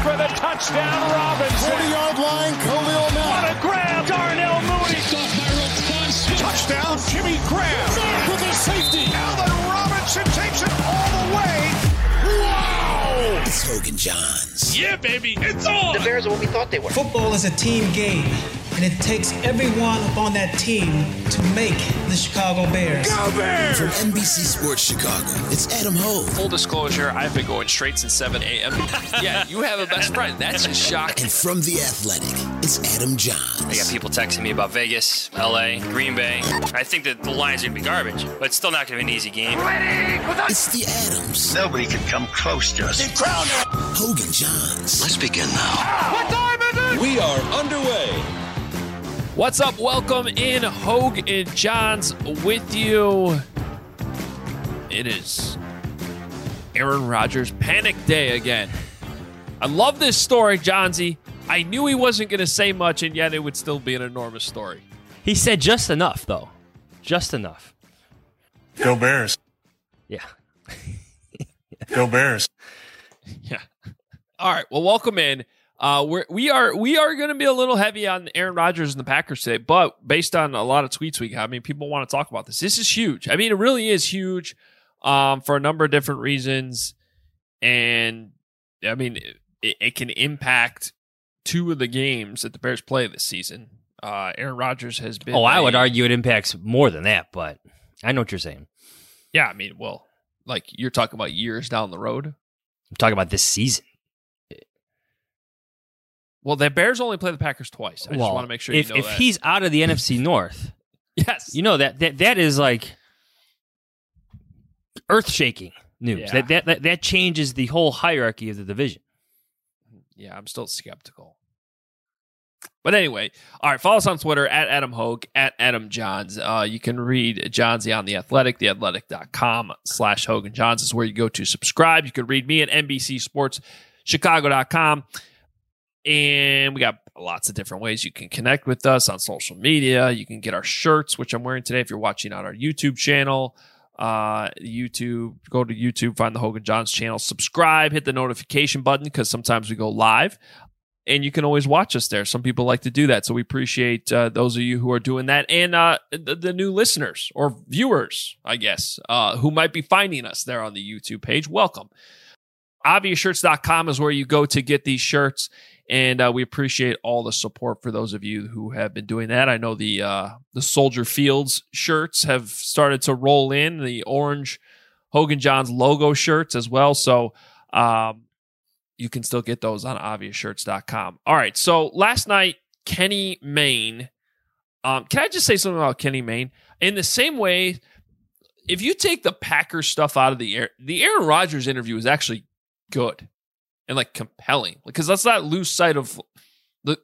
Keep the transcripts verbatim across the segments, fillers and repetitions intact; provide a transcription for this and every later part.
for the touchdown, Robinson. forty-yard line, Khalil Mack. What a grab, Darnell Mooney. Touchdown, Jimmy Graham. With a safety. Allen Robinson takes it all the way. Wow! It's Hogan Johns. Yeah, baby, it's on. The Bears are what we thought they were. Football is a team game, and it takes everyone on that team to make the Chicago Bears. Go Bears! From N B C Sports Chicago, it's Adam Hogue. Full disclosure, I've been going straight since seven a.m. Yeah, you have a best friend. That's a shock. And from The Athletic, it's Adam Johns. I got people texting me about Vegas, L A, Green Bay. I think that the line's going to be garbage, but it's still not going to be an easy game. It's the Adams. Nobody can come close to us. They crowned him. Hogan Johns. Let's begin now. What time is it? We are underway. What's up? Welcome in, Hogue and Johns with you. It is Aaron Rodgers panic day again. I love this story, Johnsy. I knew he wasn't going to say much, and yet it would still be an enormous story. He said just enough, though. Just enough. Go Bears. Yeah. Go Bears. Yeah. All right. Well, welcome in. Uh, we're, we are we are going to be a little heavy on Aaron Rodgers and the Packers today, but based on a lot of tweets we got, I mean, people want to talk about this. This is huge. I mean, it really is huge um, for a number of different reasons, and I mean, it, it can impact two of the games that the Bears play this season. Uh, Aaron Rodgers has been. Oh, I a, would argue it impacts more than that, but I know what you're saying. Yeah, I mean, well, like you're talking about years down the road. I'm talking about this season. Well, the Bears only play the Packers twice. I well, just want to make sure if, you know if that. he's out of the N F C North, yes, you know that that, that is like earth-shaking news. Yeah. That, that that that changes the whole hierarchy of the division. Yeah, I'm still skeptical. But anyway, all right, follow us on Twitter, at Adam Hogue, at Adam Johns. Uh, you can read Johnsy on The Athletic, theathletic.com slash Hogan Johns is where you go to subscribe. You can read me at N B C Sports Chicago dot com. And we got lots of different ways you can connect with us on social media. You can get our shirts, which I'm wearing today if you're watching on our YouTube channel. Uh, YouTube, go to YouTube, find the Hogan Johns channel, subscribe, hit the notification button because sometimes we go live. And you can always watch us there. Some people like to do that. So we appreciate uh, those of you who are doing that. And uh, the, the new listeners or viewers, I guess, uh, who might be finding us there on the YouTube page. Welcome. obvious shirts dot com is where you go to get these shirts. And uh, we appreciate all the support for those of you who have been doing that. I know the uh, the Soldier Fields shirts have started to roll in, the orange Hogan Johns logo shirts as well. So um, you can still get those on obvious shirts dot com. All right, so last night, Kenny Mayne. Um, can I just say something about Kenny Mayne? In the same way, if you take the Packers stuff out of the air, the Aaron Rodgers interview is actually good. And like compelling, because let's not lose sight of the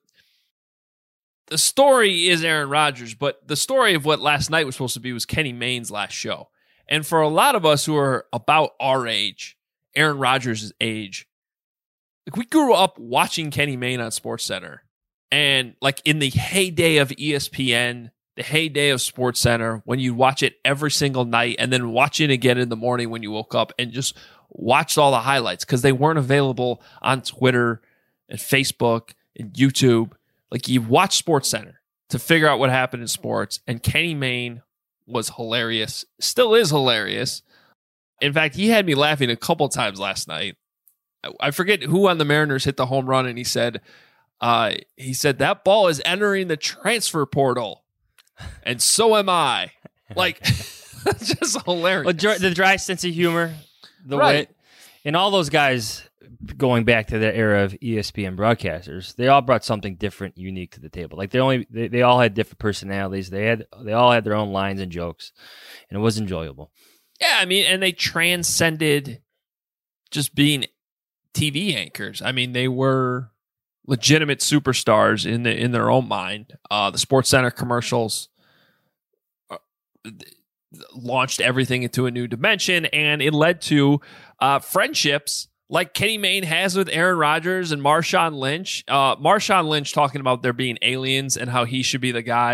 the story is Aaron Rodgers, but the story of what last night was supposed to be was Kenny Mayne's last show. And for a lot of us who are about our age, Aaron Rodgers' age, like we grew up watching Kenny Mayne on SportsCenter, and like in the heyday of E S P N, the heyday of SportsCenter, when you watch it every single night, and then watch it again in the morning when you woke up, and just watched all the highlights because they weren't available on Twitter and Facebook and YouTube. Like you watch SportsCenter to figure out what happened in sports. And Kenny Mayne was hilarious, still is hilarious. In fact, he had me laughing a couple times last night. I forget who on the Mariners hit the home run, and he said, uh, he said that ball is entering the transfer portal, and so am I. Like, just hilarious. Well, dry, the dry sense of humor. The right. way, and all those guys going back to the era of E S P N broadcasters, they all brought something different, unique to the table. Like they only, they, they all had different personalities. They had, they all had their own lines and jokes, and it was enjoyable. Yeah, I mean, and they transcended just being T V anchors. I mean, they were legitimate superstars in the in their own mind. Uh, the SportsCenter commercials Uh, launched everything into a new dimension, and it led to uh, friendships like Kenny Mayne has with Aaron Rodgers and Marshawn Lynch. Uh, Marshawn Lynch talking about there being aliens and how he should be the guy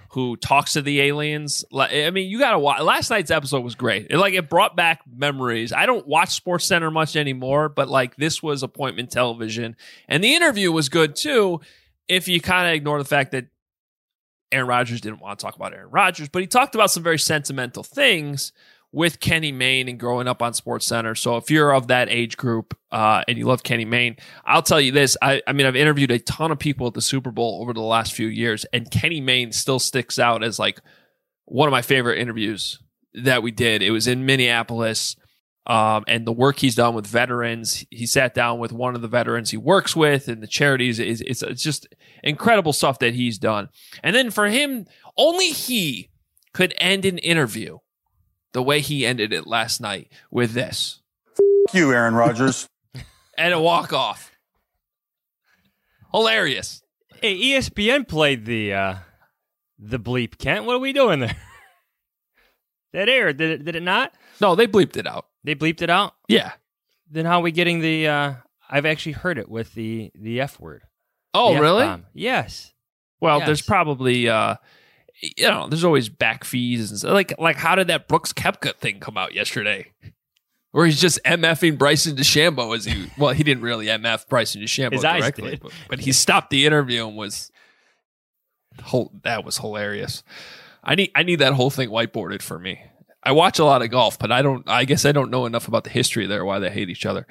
who talks to the aliens. I mean, you got to watch. Last night's episode was great. It, like, it brought back memories. I don't watch Sports Center much anymore, but like this was appointment television, and the interview was good too. If you kind of ignore the fact that Aaron Rodgers didn't want to talk about Aaron Rodgers, but he talked about some very sentimental things with Kenny Mayne and growing up on Sports Center. So if you're of that age group uh, and you love Kenny Mayne, I'll tell you this. I, I mean, I've interviewed a ton of people at the Super Bowl over the last few years, and Kenny Mayne still sticks out as like one of my favorite interviews that we did. It was in Minneapolis, um, and the work he's done with veterans. He sat down with one of the veterans he works with, and the charities. Is it's, it's just incredible stuff that he's done. And then for him, only he could end an interview the way he ended it last night with this. F- you, Aaron Rodgers. And a walk-off. Hilarious. Hey, E S P N played the uh, the bleep, Kent. What are we doing there? That aired, did it, did it not? No, they bleeped it out. They bleeped it out? Yeah. Then how are we getting the, uh, I've actually heard it with the, the F word. Oh, the really? F-bomb. Yes. Well, yes. There's probably... Uh, You know, there's always back fees and stuff. Like, like how did that Brooks Koepka thing come out yesterday? Where he's just MFing Bryson DeChambeau as he, well, he didn't really M F Bryson DeChambeau His eyes directly, did. But, but he stopped the interview and was, whole, that was hilarious. I need, I need that whole thing whiteboarded for me. I watch a lot of golf, but I don't, I guess I don't know enough about the history there, why they hate each other.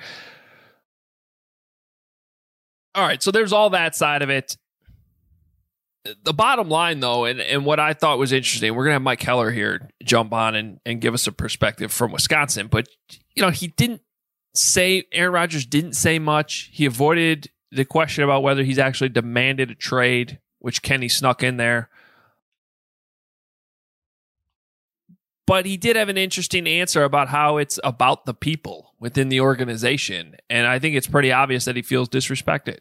All right. So there's all that side of it. The bottom line, though, and, and what I thought was interesting, we're going to have Mike Heller here jump on and, and give us a perspective from Wisconsin. But, you know, he didn't say, Aaron Rodgers didn't say much. He avoided the question about whether he's actually demanded a trade, which Kenny snuck in there. But he did have an interesting answer about how it's about the people within the organization. And I think it's pretty obvious that he feels disrespected.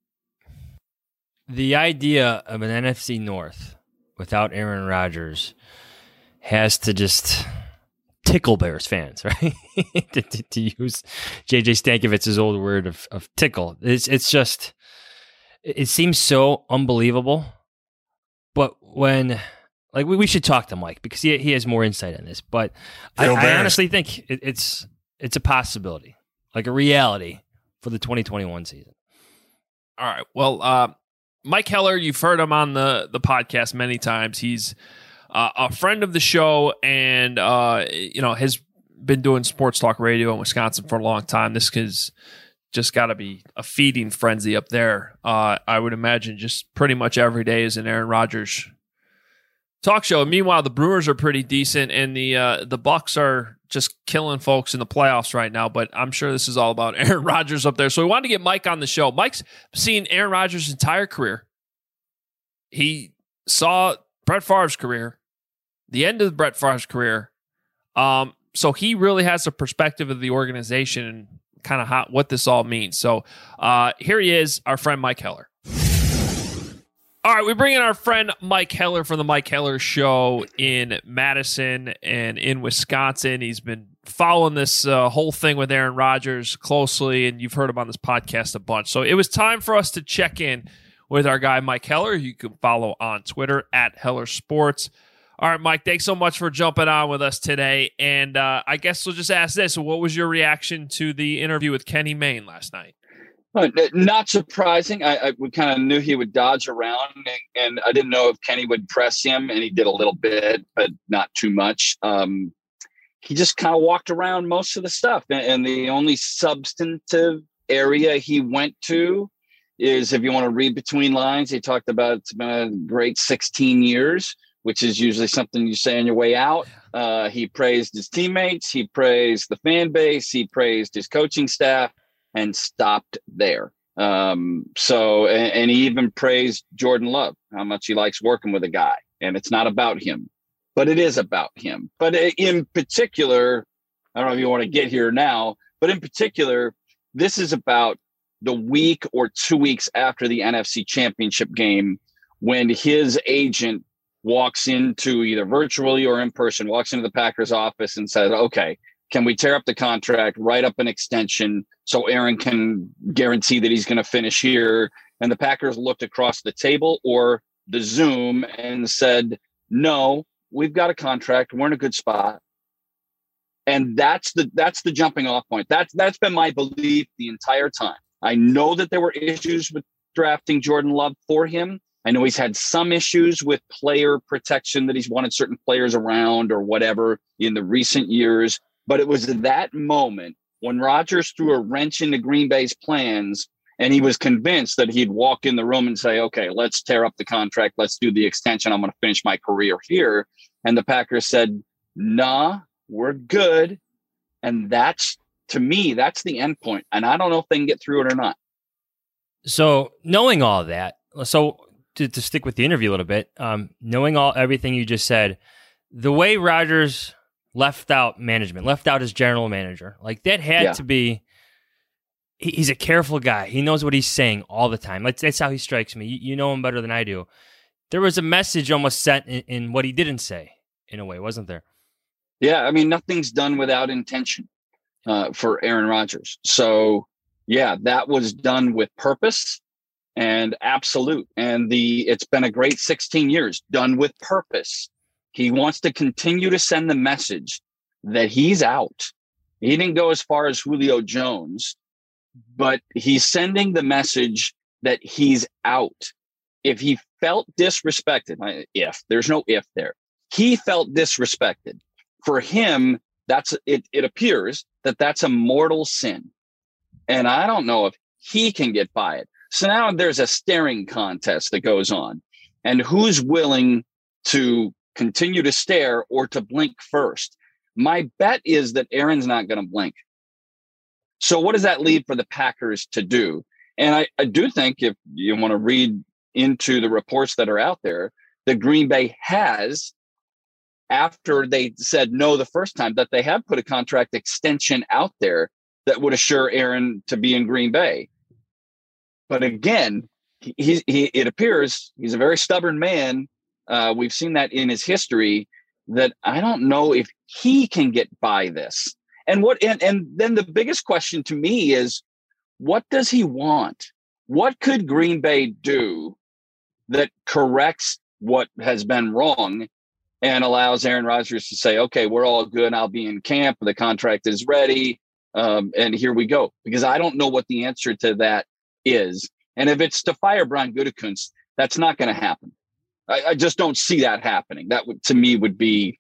The idea of an N F C North without Aaron Rodgers has to just tickle Bears fans, right? to, to, to use J J Stankovich's old word of, of tickle. It's it's just, it seems so unbelievable. But when, like, we, we should talk to Mike because he he has more insight on this. But I, I honestly think it, it's it's a possibility, like a reality for the twenty twenty-one season. All right. Well, uh, Mike Heller, you've heard him on the, the podcast many times. He's uh, a friend of the show and, uh, you know, has been doing sports talk radio in Wisconsin for a long time. This has just got to be a feeding frenzy up there. Uh, I would imagine just pretty much every day is an Aaron Rodgers talk show. Meanwhile, the Brewers are pretty decent, and the uh, the Bucks are just killing folks in the playoffs right now. But I'm sure this is all about Aaron Rodgers up there. So we wanted to get Mike on the show. Mike's seen Aaron Rodgers' entire career. He saw Brett Favre's career, the end of Brett Favre's career. Um, so he really has a perspective of the organization and kind of how, what this all means. So uh, here he is, our friend Mike Heller. All right, we bring in our friend Mike Heller from the Mike Heller Show in Madison and in Wisconsin. He's been following this uh, whole thing with Aaron Rodgers closely, and you've heard him on this podcast a bunch. So it was time for us to check in with our guy Mike Heller. You can follow on Twitter at Heller Sports. All right, Mike, thanks so much for jumping on with us today. And uh, I guess we'll just ask this. What was your reaction to the interview with Kenny Mayne last night? Uh, not surprising. I, I we kind of knew he would dodge around, and, and I didn't know if Kenny would press him, and he did a little bit, but not too much. Um, he just kind of walked around most of the stuff, and, and the only substantive area he went to is, if you want to read between lines, he talked about it's been a great sixteen years, which is usually something you say on your way out. Uh, he praised his teammates, he praised the fan base, he praised his coaching staff, and stopped there. Um, so, and, and he even praised Jordan Love, how much he likes working with a guy. And it's not about him, but it is about him. But in particular, I don't know if you want to get here now, but in particular, this is about the week or two weeks after the N F C Championship game, when his agent walks into, either virtually or in person, walks into the Packers office and says, okay, can we tear up the contract, write up an extension so Aaron can guarantee that he's going to finish here? And the Packers looked across the table or the Zoom and said, no, we've got a contract. We're in a good spot. And that's the that's the jumping off point. That's that's been my belief the entire time. I know that there were issues with drafting Jordan Love for him. I know he's had some issues with player protection, that he's wanted certain players around or whatever in the recent years. But it was that moment when Rodgers threw a wrench into Green Bay's plans, and he was convinced that he'd walk in the room and say, okay, let's tear up the contract. Let's do the extension. I'm going to finish my career here. And the Packers said, nah, we're good. And that's, to me, that's the end point. And I don't know if they can get through it or not. So knowing all that, so to, to stick with the interview a little bit, um, knowing all everything you just said, the way Rodgers left out management, left out his general manager, like that had Yeah. to be, he, he's a careful guy. He knows what he's saying all the time. Like, that's how he strikes me. You, you know him better than I do. There was a message almost sent in, in what he didn't say, in a way, wasn't there? Yeah, I mean, nothing's done without intention uh, for Aaron Rodgers. So, yeah, that was done with purpose and absolute. And the it's been a great sixteen years, done with purpose. He wants to continue to send the message that he's out. He didn't go as far as Julio Jones, but he's sending the message that he's out. If he felt disrespected, if there's no if there, he felt disrespected. For him, that's it. It appears that that's a mortal sin, and I don't know if he can get by it. So now there's a staring contest that goes on, and who's willing to continue to stare or to blink first? My bet is that Aaron's not going to blink. So what does that leave for the Packers to do? And I, I do think, if you want to read into the reports that are out there, that Green Bay has, after they said no the first time, that they have put a contract extension out there that would assure Aaron to be in Green Bay. But again, he, he it appears he's a very stubborn man. Uh, we've seen that in his history, that I don't know if he can get by this. And what and, and then the biggest question to me is, what does he want? What could Green Bay do that corrects what has been wrong and allows Aaron Rodgers to say, okay, we're all good. I'll be in camp. The contract is ready. Um, and here we go. Because I don't know what the answer to that is. And if it's to fire Brian Gutekunst, that's not going to happen. I, I just don't see that happening. That would, to me, would be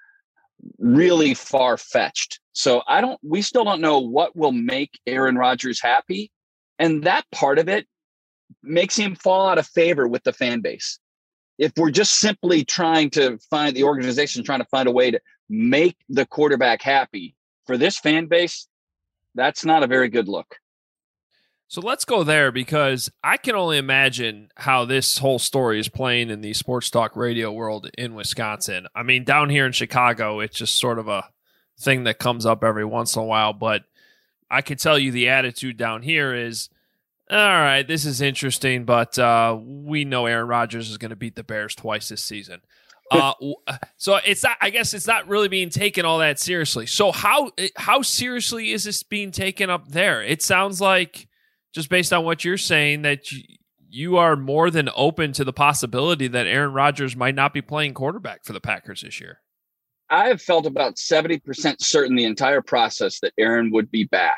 really far-fetched. So I don't, we still don't know what will make Aaron Rodgers happy. And that part of it makes him fall out of favor with the fan base. If we're just simply trying to find the organization, trying to find a way to make the quarterback happy, for this fan base, that's not a very good look. So let's go there, because I can only imagine how this whole story is playing in the sports talk radio world in Wisconsin. I mean, down here in Chicago, it's just sort of a thing that comes up every once in a while. But I can tell you the attitude down here is, all right, this is interesting, but uh, we know Aaron Rodgers is going to beat the Bears twice this season. Uh, so it's not, I guess it's not really being taken all that seriously. So how how seriously is this being taken up there? It sounds like, just based on what you're saying, that you, you are more than open to the possibility that Aaron Rodgers might not be playing quarterback for the Packers this year. I have felt about seventy percent certain the entire process that Aaron would be back.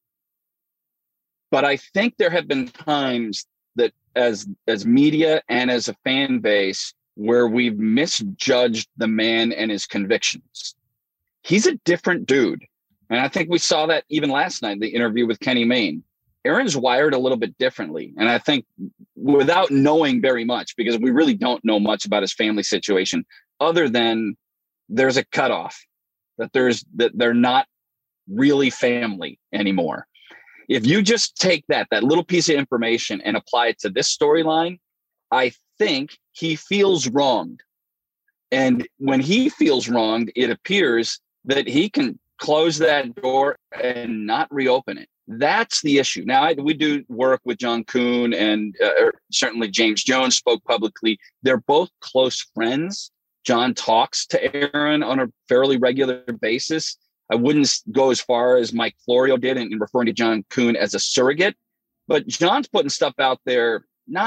But I think there have been times that as as media and as a fan base where we've misjudged the man and his convictions. He's a different dude. And I think we saw that even last night, the interview with Kenny Mayne. Aaron's wired a little bit differently. And I think, without knowing very much, because we really don't know much about his family situation, other than there's a cutoff, that there's that they're not really family anymore. If you just take that, that little piece of information and apply it to this storyline, I think he feels wronged. And when he feels wronged, it appears that he can close that door and not reopen it. That's the issue. Now, I, we do work with John Kuhn, and uh, certainly James Jones spoke publicly. They're both close friends. John talks to Aaron on a fairly regular basis. I wouldn't go as far as Mike Florio did in, in referring to John Kuhn as a surrogate, but John's putting stuff out there, not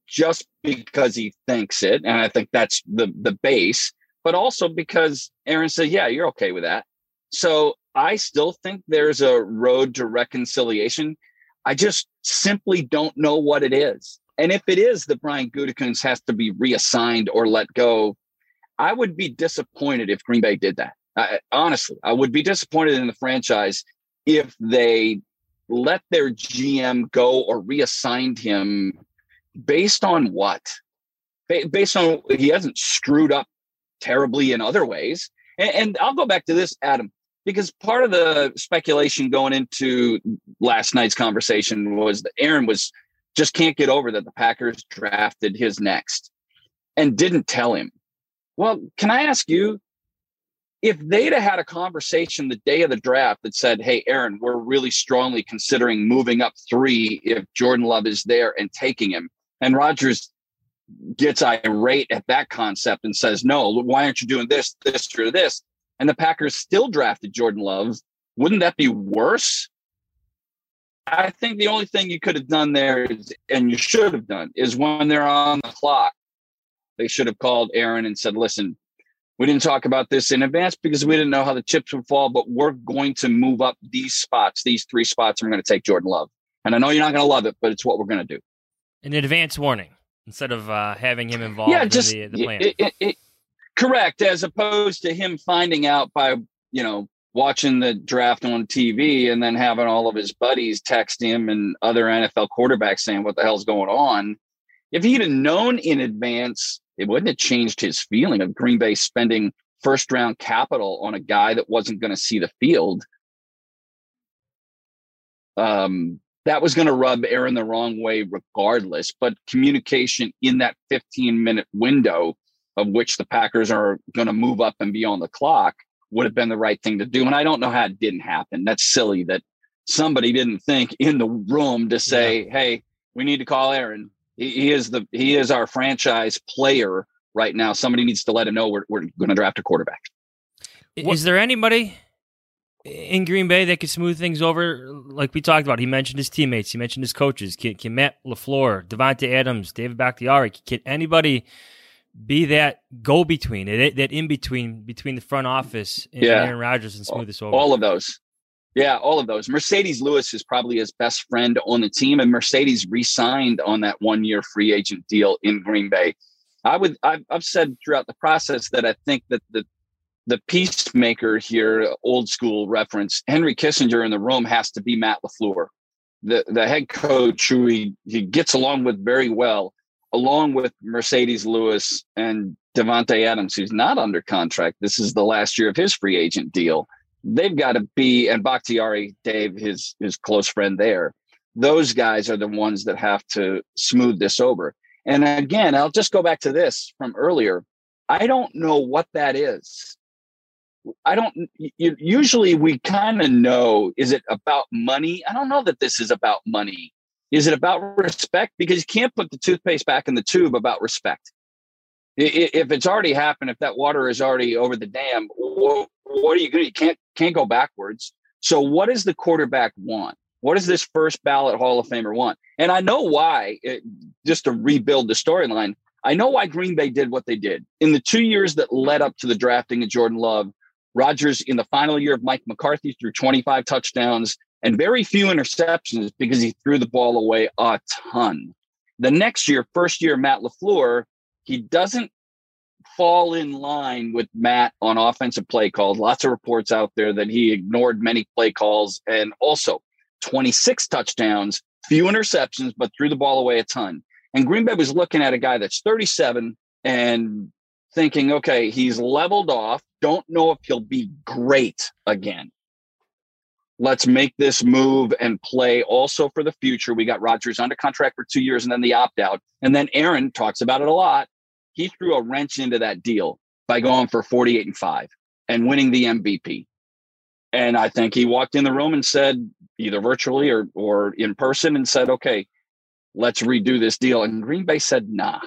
just because he thinks it, and I think that's the the base, but also because Aaron said, yeah, you're okay with that. So I still think there's a road to reconciliation. I just simply don't know what it is. And if it is that Brian Gutekunst has to be reassigned or let go, I would be disappointed if Green Bay did that. I, honestly, I would be disappointed in the franchise if they let their G M go or reassigned him based on what? Ba- based on he hasn't screwed up terribly in other ways. And, and I'll go back to this, Adam, because part of the speculation going into last night's conversation was that Aaron was just can't get over that the Packers drafted his next and didn't tell him. Well, can I ask you, if they'd have had a conversation the day of the draft that said, hey, Aaron, we're really strongly considering moving up three if Jordan Love is there and taking him, and Rodgers gets irate at that concept and says, no, why aren't you doing this, this, or this? And the Packers still drafted Jordan Love, wouldn't that be worse? I think the only thing you could have done there is, and you should have done, is when they're on the clock, they should have called Aaron and said, listen, we didn't talk about this in advance because we didn't know how the chips would fall, but we're going to move up these spots, these three spots, and we're going to take Jordan Love. And I know you're not going to love it, but it's what we're going to do. An advance warning instead of uh, having him involved yeah, just, in the, the plan. It, it, it, correct, as opposed to him finding out by, you know, watching the draft on T V and then having all of his buddies text him and other N F L quarterbacks saying what the hell's going on. If he'd have known in advance, it wouldn't have changed his feeling of Green Bay spending first round capital on a guy that wasn't going to see the field. Um, that was going to rub Aaron the wrong way regardless, but communication in that fifteen minute window of which the Packers are going to move up and be on the clock would have been the right thing to do. And I don't know how it didn't happen. That's silly that somebody didn't think in the room to say, yeah. hey, we need to call Aaron. He, he is the he is our franchise player right now. Somebody needs to let him know we're, we're going to draft a quarterback. Is what? there anybody in Green Bay that could smooth things over? Like we talked about, he mentioned his teammates. He mentioned his coaches. Can, can Matt LaFleur, Devontae Adams, David Bakhtiari, can anybody be that go-between, that, that in-between between the front office and yeah. Aaron Rodgers and smooth this over? All of those. Yeah, all of those. Mercedes Lewis is probably his best friend on the team, and Mercedes re-signed on that one-year free agent deal in Green Bay. I would, I've, I've said throughout the process that I think that the the peacemaker here, old school reference, Henry Kissinger in the room has to be Matt LaFleur, the the head coach who he, he gets along with very well, along with Mercedes Lewis and Devontae Adams, who's not under contract. This is the last year of his free agent deal. They've got to be, and Bakhtiari, Dave, his his close friend there, those guys are the ones that have to smooth this over. And again, I'll just go back to this from earlier. I don't know what that is. I don't, you, usually we kind of know, is it about money? I don't know that this is about money. Is it about respect? Because you can't put the toothpaste back in the tube about respect. If it's already happened, if that water is already over the dam, what, what are you going to, you can't, can't go backwards. So what does the quarterback want? What does this first ballot Hall of Famer want? And I know why, it, just to rebuild the storyline, I know why Green Bay did what they did. In the two years that led up to the drafting of Jordan Love, Rodgers, in the final year of Mike McCarthy, threw twenty-five touchdowns and very few interceptions because he threw the ball away a ton. The next year, first year, Matt LaFleur, he doesn't fall in line with Matt on offensive play calls. Lots of reports out there that he ignored many play calls, and also twenty-six touchdowns, few interceptions, but threw the ball away a ton. And Green Bay was looking at a guy that's thirty-seven and thinking, okay, he's leveled off. Don't know if he'll be great again. Let's make this move and play also for the future. We got Rodgers under contract for two years and then the opt-out. And then Aaron talks about it a lot. He threw a wrench into that deal by going for forty-eight and five and winning the M V P. And I think he walked in the room and said, either virtually or, or in person, and said, okay, let's redo this deal. And Green Bay said, nah.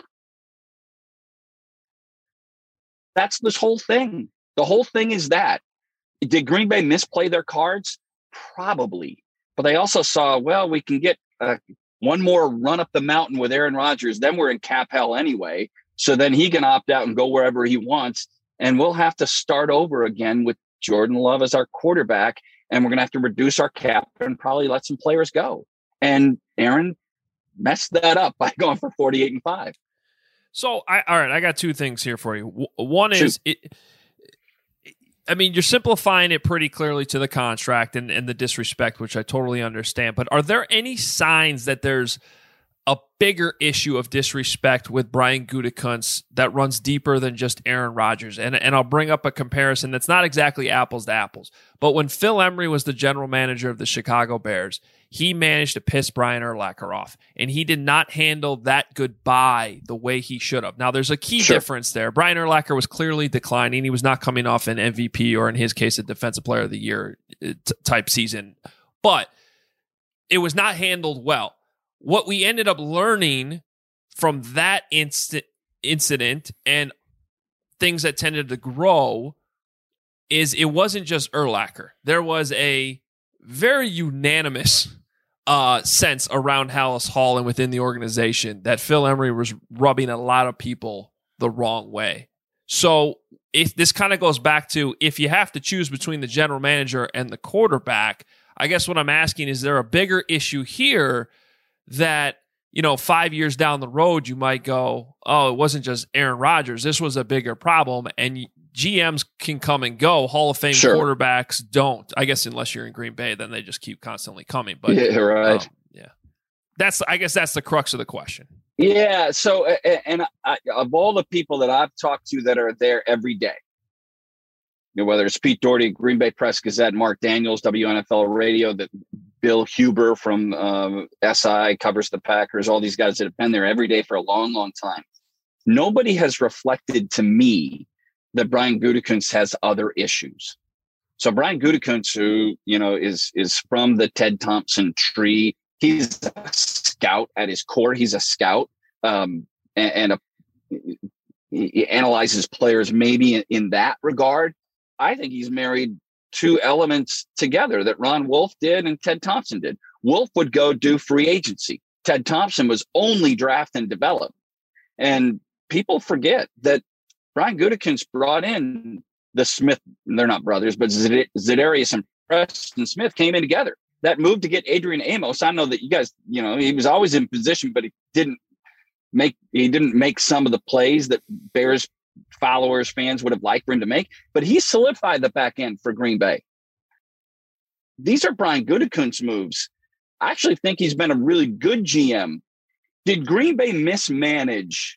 That's this whole thing. The whole thing is that. Did Green Bay misplay their cards? Probably. But they also saw, well, we can get a one more run up the mountain with Aaron Rodgers, then we're in cap hell anyway. So then he can opt out and go wherever he wants. And we'll have to start over again with Jordan Love as our quarterback. And we're going to have to reduce our cap and probably let some players go. And Aaron messed that up by going for forty-eight and five. So, I, all right, I got two things here for you. One is, it, I mean, you're simplifying it pretty clearly to the contract and, and the disrespect, which I totally understand. But are there any signs that there's a bigger issue of disrespect with Brian Gutekunst that runs deeper than just Aaron Rodgers? And, and I'll bring up a comparison that's not exactly apples to apples. But when Phil Emery was the general manager of the Chicago Bears, he managed to piss Brian Urlacher off, and he did not handle that goodbye the way he should have. Now, there's a key sure. difference there. Brian Urlacher was clearly declining. He was not coming off an M V P or, in his case, a Defensive Player of the Year t- type season, but it was not handled well. What we ended up learning from that inst- incident and things that tended to grow is it wasn't just Urlacher. There was a very unanimous uh, sense around Halas Hall and within the organization that Phil Emery was rubbing a lot of people the wrong way. So if this kind of goes back to, if you have to choose between the general manager and the quarterback, I guess what I'm asking, is there a bigger issue here that, you know, five years down the road, you might go, oh, it wasn't just Aaron Rodgers. This was a bigger problem. And G Ms can come and go. Hall of Fame sure. quarterbacks don't. I guess unless you're in Green Bay, then they just keep constantly coming. But yeah, right. Um, yeah, that's. I guess that's the crux of the question. Yeah. So, and I, of all the people that I've talked to that are there every day, you know, whether it's Pete Doherty, Green Bay Press Gazette, Mark Daniels, W N F L Radio, that Bill Huber from um, S I covers the Packers, all these guys that have been there every day for a long, long time. Nobody has reflected to me that Brian Gutekunst has other issues. So Brian Gutekunst, who, you know, is is from the Ted Thompson tree, he's a scout at his core. He's a scout, um, and, and a, he analyzes players maybe in, in that regard. I think he's married two elements together that Ron Wolf did and Ted Thompson did. Wolf would go do free agency. Ted Thompson was only draft and develop. And people forget that Brian Gutekunst brought in the Smith, they're not brothers, but Za'Darius and Preston Smith came in together. That move to get Adrian Amos, I know that you guys, you know, he was always in position, but he didn't make he didn't make some of the plays that Bears followers, fans would have liked for him to make, but he solidified the back end for Green Bay. These are Brian Gutekunst moves. I actually think he's been a really good G M. Did Green Bay mismanage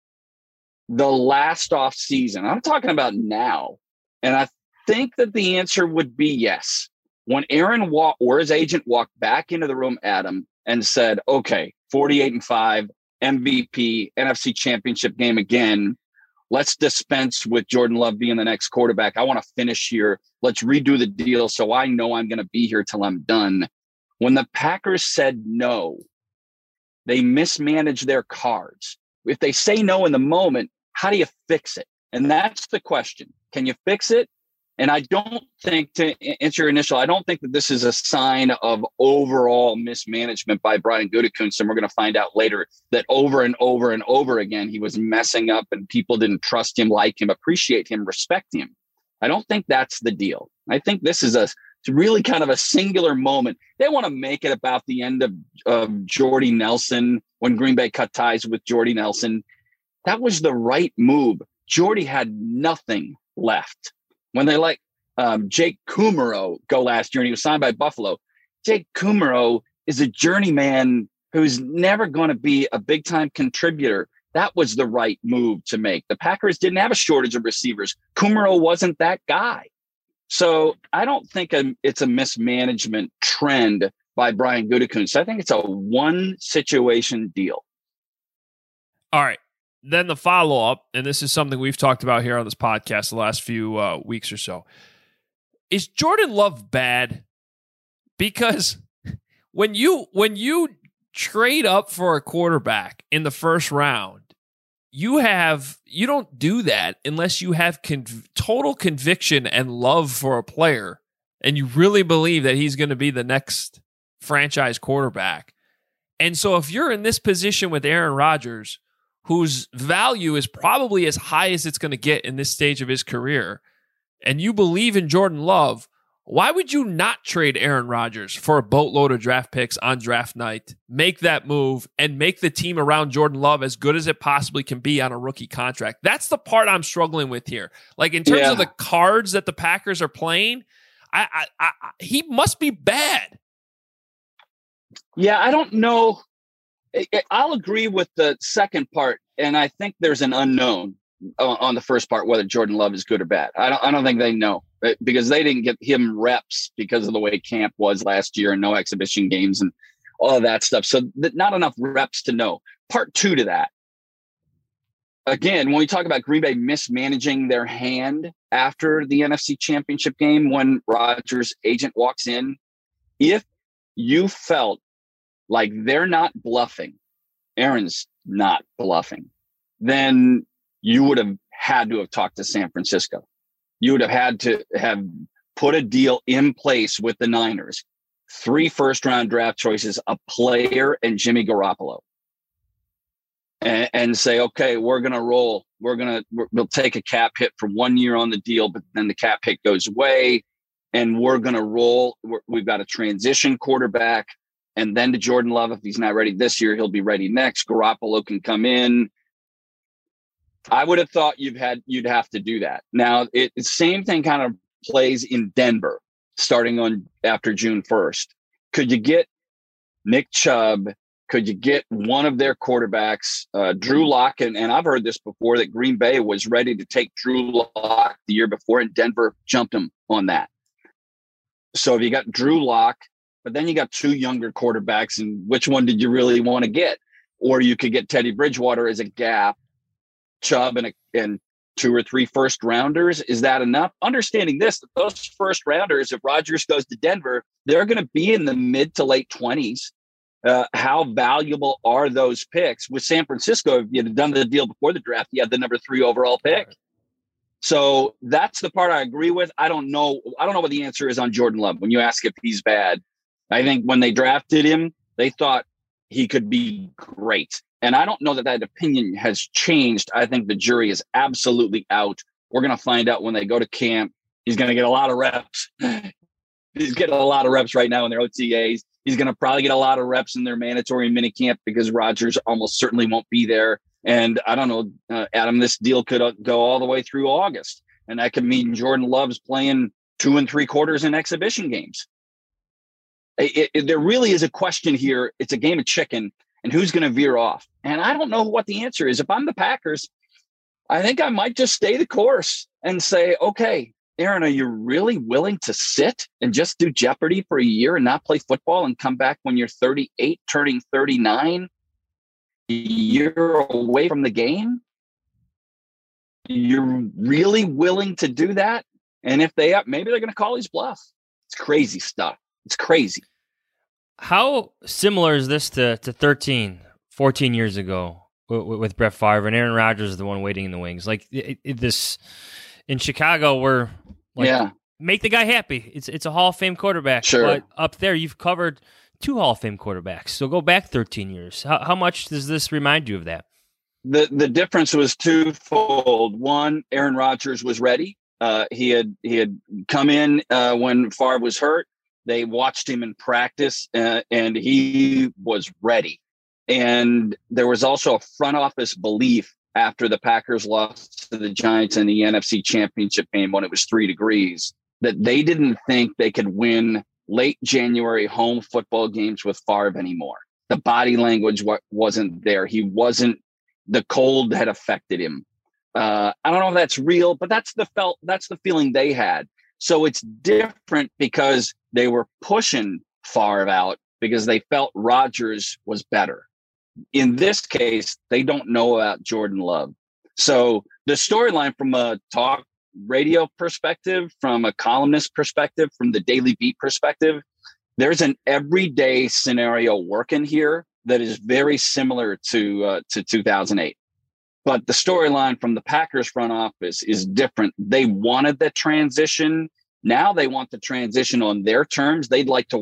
the last off season? I'm talking about now. And I think that the answer would be yes. When Aaron walked, or his agent walked back into the room, Adam, and said, okay, forty-eight and five, M V P, N F C championship game again. Let's dispense with Jordan Love being the next quarterback. I want to finish here. Let's redo the deal so I know I'm going to be here till I'm done. When the Packers said no, they mismanaged their cards. If they say no in the moment, how do you fix it? And that's the question. Can you fix it? And I don't think, to answer your initial, I don't think that this is a sign of overall mismanagement by Brian Gutekunst. And we're going to find out later that over and over and over again, he was messing up and people didn't trust him, like him, appreciate him, respect him. I don't think that's the deal. I think this is a it's really kind of a singular moment. They want to make it about the end of, of Jordy Nelson when Green Bay cut ties with Jordy Nelson. That was the right move. Jordy had nothing left. When they let um, Jake Kumerow go last year and he was signed by Buffalo, Jake Kumerow is a journeyman who's never going to be a big-time contributor. That was the right move to make. The Packers didn't have a shortage of receivers. Kumerow wasn't that guy. So I don't think a, it's a mismanagement trend by Brian Gutekunst. I think it's a one-situation deal. All right. Then the follow-up, and this is something we've talked about here on this podcast the last few uh, weeks or so. Is Jordan Love bad? Because when you when you trade up for a quarterback in the first round, you have you don't do that unless you have conv- total conviction and love for a player, and you really believe that he's going to be the next franchise quarterback. And so if you're in this position with Aaron Rodgers, whose value is probably as high as it's going to get in this stage of his career, and you believe in Jordan Love, why would you not trade Aaron Rodgers for a boatload of draft picks on draft night, make that move, and make the team around Jordan Love as good as it possibly can be on a rookie contract? That's the part I'm struggling with here. Like, in terms yeah. of the cards that the Packers are playing, I, I, I, he must be bad. Yeah, I don't know. I'll agree with the second part, and I think there's an unknown on the first part whether Jordan Love is good or bad. I don't. I don't think they know, because they didn't get him reps because of the way camp was last year and no exhibition games and all of that stuff. So not enough reps to know. Part two to that. Again, when we talk about Green Bay mismanaging their hand after the N F C Championship game, when Rodgers' agent walks in, if you felt like they're not bluffing, Aaron's not bluffing, then you would have had to have talked to San Francisco. You would have had to have put a deal in place with the Niners, three first round draft choices, a player, and Jimmy Garoppolo. And, and say, okay, we're going to roll. We're going to, we'll take a cap hit for one year on the deal, but then the cap hit goes away and we're going to roll. We're, we've got a transition quarterback. And then to Jordan Love, if he's not ready this year, he'll be ready next. Garoppolo can come in. I would have thought you've had, you'd have to do that. Now, it, the same thing kind of plays in Denver, starting on after June first. Could you get Nick Chubb? Could you get one of their quarterbacks, uh, Drew Lock? And, and I've heard this before, that Green Bay was ready to take Drew Lock the year before, and Denver jumped him on that. So if you got Drew Lock, but then you got two younger quarterbacks, and which one did you really want to get? Or you could get Teddy Bridgewater as a gap, Chubb and, a, and two or three first rounders. Is that enough? Understanding this, that those first rounders, if Rodgers goes to Denver, they're going to be in the mid to late twenties. Uh, how valuable are those picks? With San Francisco, if you had done the deal before the draft, you had the number three overall pick. So that's the part I agree with. I don't know. I don't know what the answer is on Jordan Love. When you ask if he's bad, I think when they drafted him, they thought he could be great. And I don't know that that opinion has changed. I think the jury is absolutely out. We're going to find out when they go to camp. He's going to get a lot of reps. He's getting a lot of reps right now in their O T As. He's going to probably get a lot of reps in their mandatory minicamp, because Rodgers almost certainly won't be there. And I don't know, uh, Adam, this deal could uh, go all the way through August. And that could mean Jordan Love's playing two and three quarters in exhibition games. It, it, there really is a question here. It's a game of chicken, and who's going to veer off? And I don't know what the answer is. If I'm the Packers, I think I might just stay the course and say, okay, Aaron, are you really willing to sit and just do Jeopardy for a year and not play football and come back when you're thirty-eight, turning thirty-nine, a year away from the game? You're really willing to do that? And if they are, maybe they're going to call his bluff. It's crazy stuff. It's crazy. How similar is this to, to thirteen, fourteen years ago with, with Brett Favre, and Aaron Rodgers is the one waiting in the wings? Like it, it, this in Chicago, we're like, yeah. make the guy happy. It's it's a Hall of Fame quarterback. Sure. But up there, you've covered two Hall of Fame quarterbacks. So go back thirteen years. How, how much does this remind you of that? The the difference was twofold. One, Aaron Rodgers was ready. Uh, he had he had come in uh, when Favre was hurt. They watched him in practice, uh, and he was ready. And there was also a front office belief after the Packers lost to the Giants in the N F C Championship game when it was three degrees, that they didn't think they could win late January home football games with Favre anymore. The body language w- wasn't there. He wasn't, the cold had affected him. Uh, I don't know if that's real, but that's the felt, that's the feeling they had. So it's different because they were pushing Favre out because they felt Rodgers was better. In this case, they don't know about Jordan Love. So the storyline from a talk radio perspective, from a columnist perspective, from the Daily Beat perspective, there's an everyday scenario working here that is very similar to uh, to two thousand eight. But the storyline from the Packers front office is different. They wanted the transition. Now they want the transition on their terms. They'd like to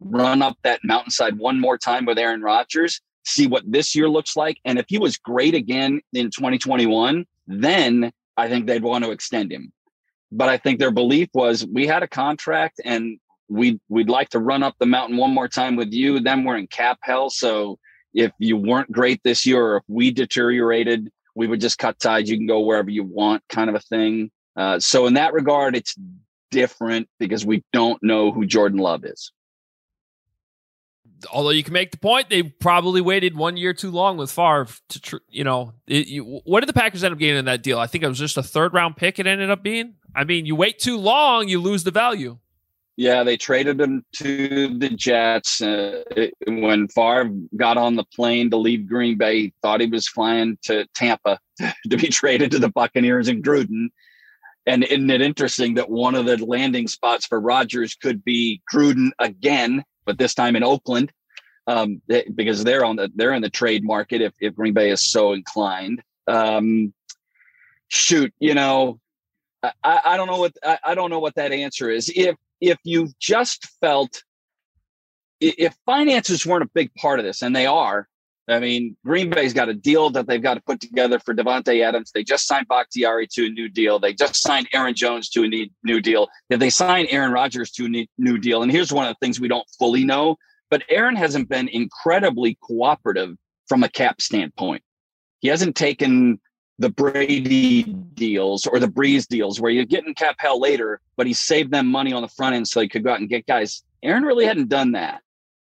run up that mountainside one more time with Aaron Rodgers, see what this year looks like. And if he was great again in twenty twenty-one, then I think they'd want to extend him. But I think their belief was we had a contract and we'd, we'd like to run up the mountain one more time with you. Then we're in cap hell. So if you weren't great this year, or if we deteriorated, we would just cut ties. You can go wherever you want, kind of a thing. Uh, so in that regard, it's different because we don't know who Jordan Love is. Although you can make the point, they probably waited one year too long with Favre to, tr- you know, it, you, what did the Packers end up getting in that deal? I think it was just a third round pick it ended up being. I mean, you wait too long, you lose the value. Yeah, they traded him to the Jets. Uh, it, when Favre got on the plane to leave Green Bay, he thought he was flying to Tampa to be traded to the Buccaneers in Gruden. And isn't it interesting that one of the landing spots for Rodgers could be Gruden again, but this time in Oakland, um, they, because they're on the they're in the trade market if, if Green Bay is so inclined. Um, shoot, you know, I, I don't know what I, I don't know what that answer is. If if you just felt if finances weren't a big part of this, and they are. I mean, Green Bay's got a deal that they've got to put together for Devontae Adams. They just signed Bakhtiari to a new deal. They just signed Aaron Jones to a new deal. If they sign Aaron Rodgers to a new deal, and here's one of the things we don't fully know, but Aaron hasn't been incredibly cooperative from a cap standpoint. He hasn't taken the Brady deals or the Breeze deals where you get in cap hell later, but he saved them money on the front end so he could go out and get guys. Aaron really hadn't done that.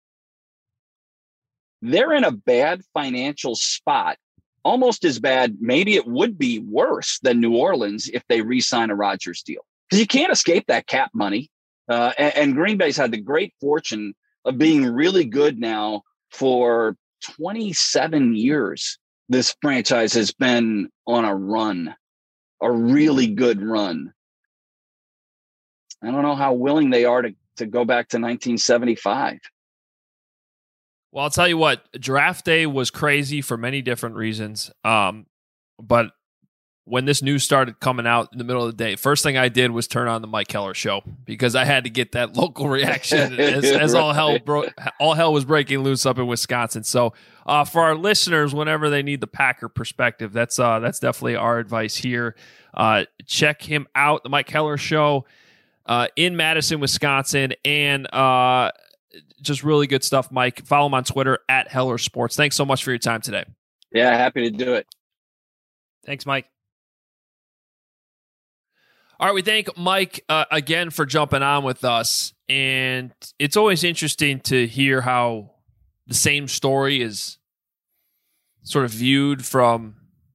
They're in a bad financial spot, almost as bad. Maybe it would be worse than New Orleans if they re-sign a Rodgers deal, because you can't escape that cap money. Uh, and, and Green Bay's had the great fortune of being really good now for twenty-seven years. This franchise has been on a run, a really good run. I don't know how willing they are to, to go back to nineteen seventy-five. Well, I'll tell you what, draft day was crazy for many different reasons. Um, but when this news started coming out in the middle of the day, first thing I did was turn on the Mike Keller show because I had to get that local reaction as, as right. all hell bro- all hell was breaking loose up in Wisconsin. So uh, for our listeners, whenever they need the Packer perspective, that's uh, that's definitely our advice here. Uh, check him out, the Mike Keller show uh, in Madison, Wisconsin, and uh, just really good stuff, Mike. Follow him on Twitter at Heller Sports. Thanks so much for your time today. Yeah, happy to do it. Thanks, Mike. All right, we thank Mike uh, again for jumping on with us. And it's always interesting to hear how the same story is sort of viewed from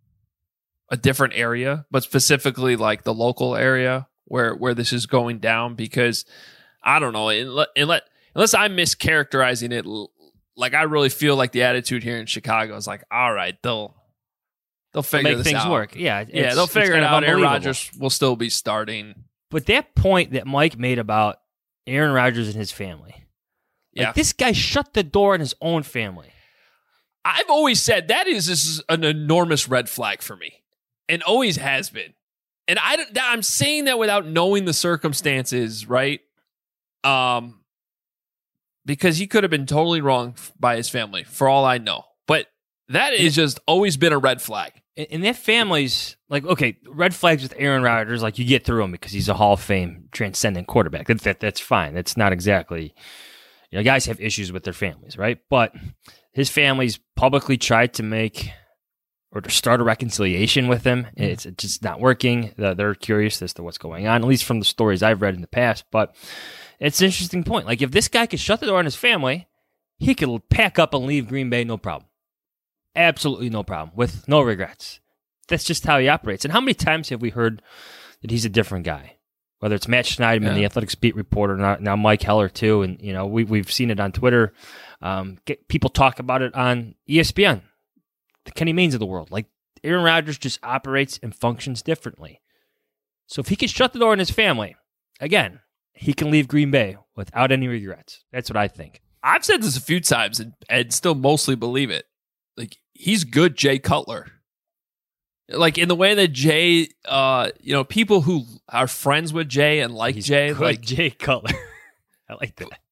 a different area, but specifically like the local area where, where this is going down, because I don't know, unless, unless I'm mischaracterizing it, like I really feel like the attitude here in Chicago is like, all right, they'll they'll figure make this things out. work. Yeah, yeah, they'll figure it out. Aaron Rodgers will still be starting. But that point that Mike made about Aaron Rodgers and his family, like yeah, this guy shut the door on his own family. I've always said that is this is an enormous red flag for me, and always has been. And I, I'm saying that without knowing the circumstances, right? Um, because he could have been totally wrong by his family, for all I know. But that has just always been a red flag. And that family's like, okay, red flags with Aaron Rodgers, like you get through him because he's a Hall of Fame transcendent quarterback. That, that that's fine. That's not exactly, you know, guys have issues with their families, right? But his family's publicly tried to make or to start a reconciliation with him. It's just not working. They're curious as to what's going on, at least from the stories I've read in the past. But it's an interesting point. Like if this guy could shut the door on his family, he could pack up and leave Green Bay, no problem. Absolutely no problem, with no regrets. That's just how he operates. And how many times have we heard that he's a different guy? Whether it's Matt Schneidman, yeah. the Athletics beat reporter, now, now Mike Heller too, and you know we we've seen it on Twitter. Um, get, people talk about it on E S P N. The Kenny Maynes of the world. Like Aaron Rodgers just operates and functions differently. So if he can shut the door on his family, again, he can leave Green Bay without any regrets. That's what I think. I've said this a few times and, and still mostly believe it. Like, he's good Jay Cutler. Like, in the way that Jay, uh, you know, people who are friends with Jay and like he's Jay, good like Jay Cutler. I like that.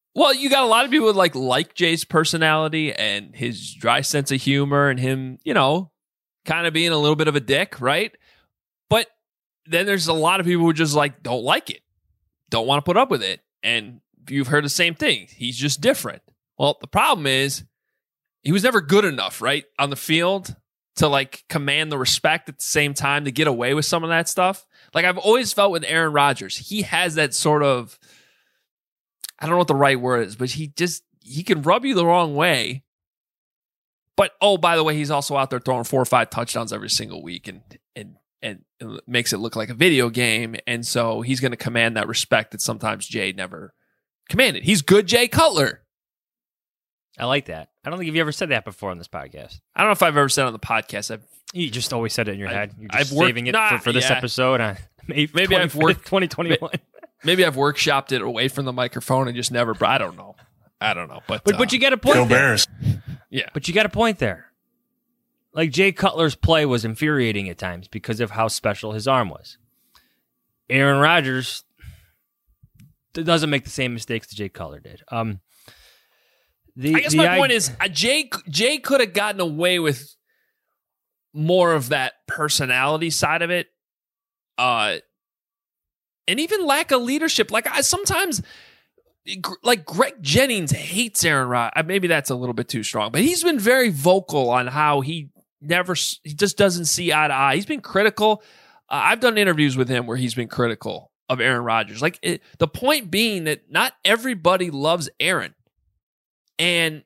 Well, you got a lot of people who like like Jay's personality and his dry sense of humor and him, you know, kind of being a little bit of a dick, right? But then there's a lot of people who just like don't like it, don't want to put up with it. And you've heard the same thing. He's just different. Well, the problem is he was never good enough, right, on the field to like command the respect at the same time to get away with some of that stuff. Like I've always felt with Aaron Rodgers, he has that sort of, I don't know what the right word is, but he just, he can rub you the wrong way. But, oh, by the way, he's also out there throwing four or five touchdowns every single week and and and it makes it look like a video game. And so he's going to command that respect that sometimes Jay never commanded. He's good Jay Cutler. I like that. I don't think you've ever said that before on this podcast. I don't know if I've ever said it on the podcast. I've, you just always said it in your I, head. You're just I've worked, saving it nah, for, for this yeah. episode on May maybe I've worked twenty twenty-one. Maybe I've workshopped it away from the microphone and just never. I don't know. I don't know. But but, uh, but you got a point Go there. Bears. Yeah. But you got a point there. Like Jay Cutler's play was infuriating at times because of how special his arm was. Aaron Rodgers doesn't make the same mistakes that Jay Cutler did. Um, the, I guess the my I- point is uh, Jay Jay could have gotten away with more of that personality side of it, uh, and even lack of leadership. Like I sometimes, like Greg Jennings hates Aaron Rodgers. Maybe that's a little bit too strong, but he's been very vocal on how he never, he just doesn't see eye to eye. He's been critical. Uh, I've done interviews with him where he's been critical of Aaron Rodgers. Like it, the point being that not everybody loves Aaron. And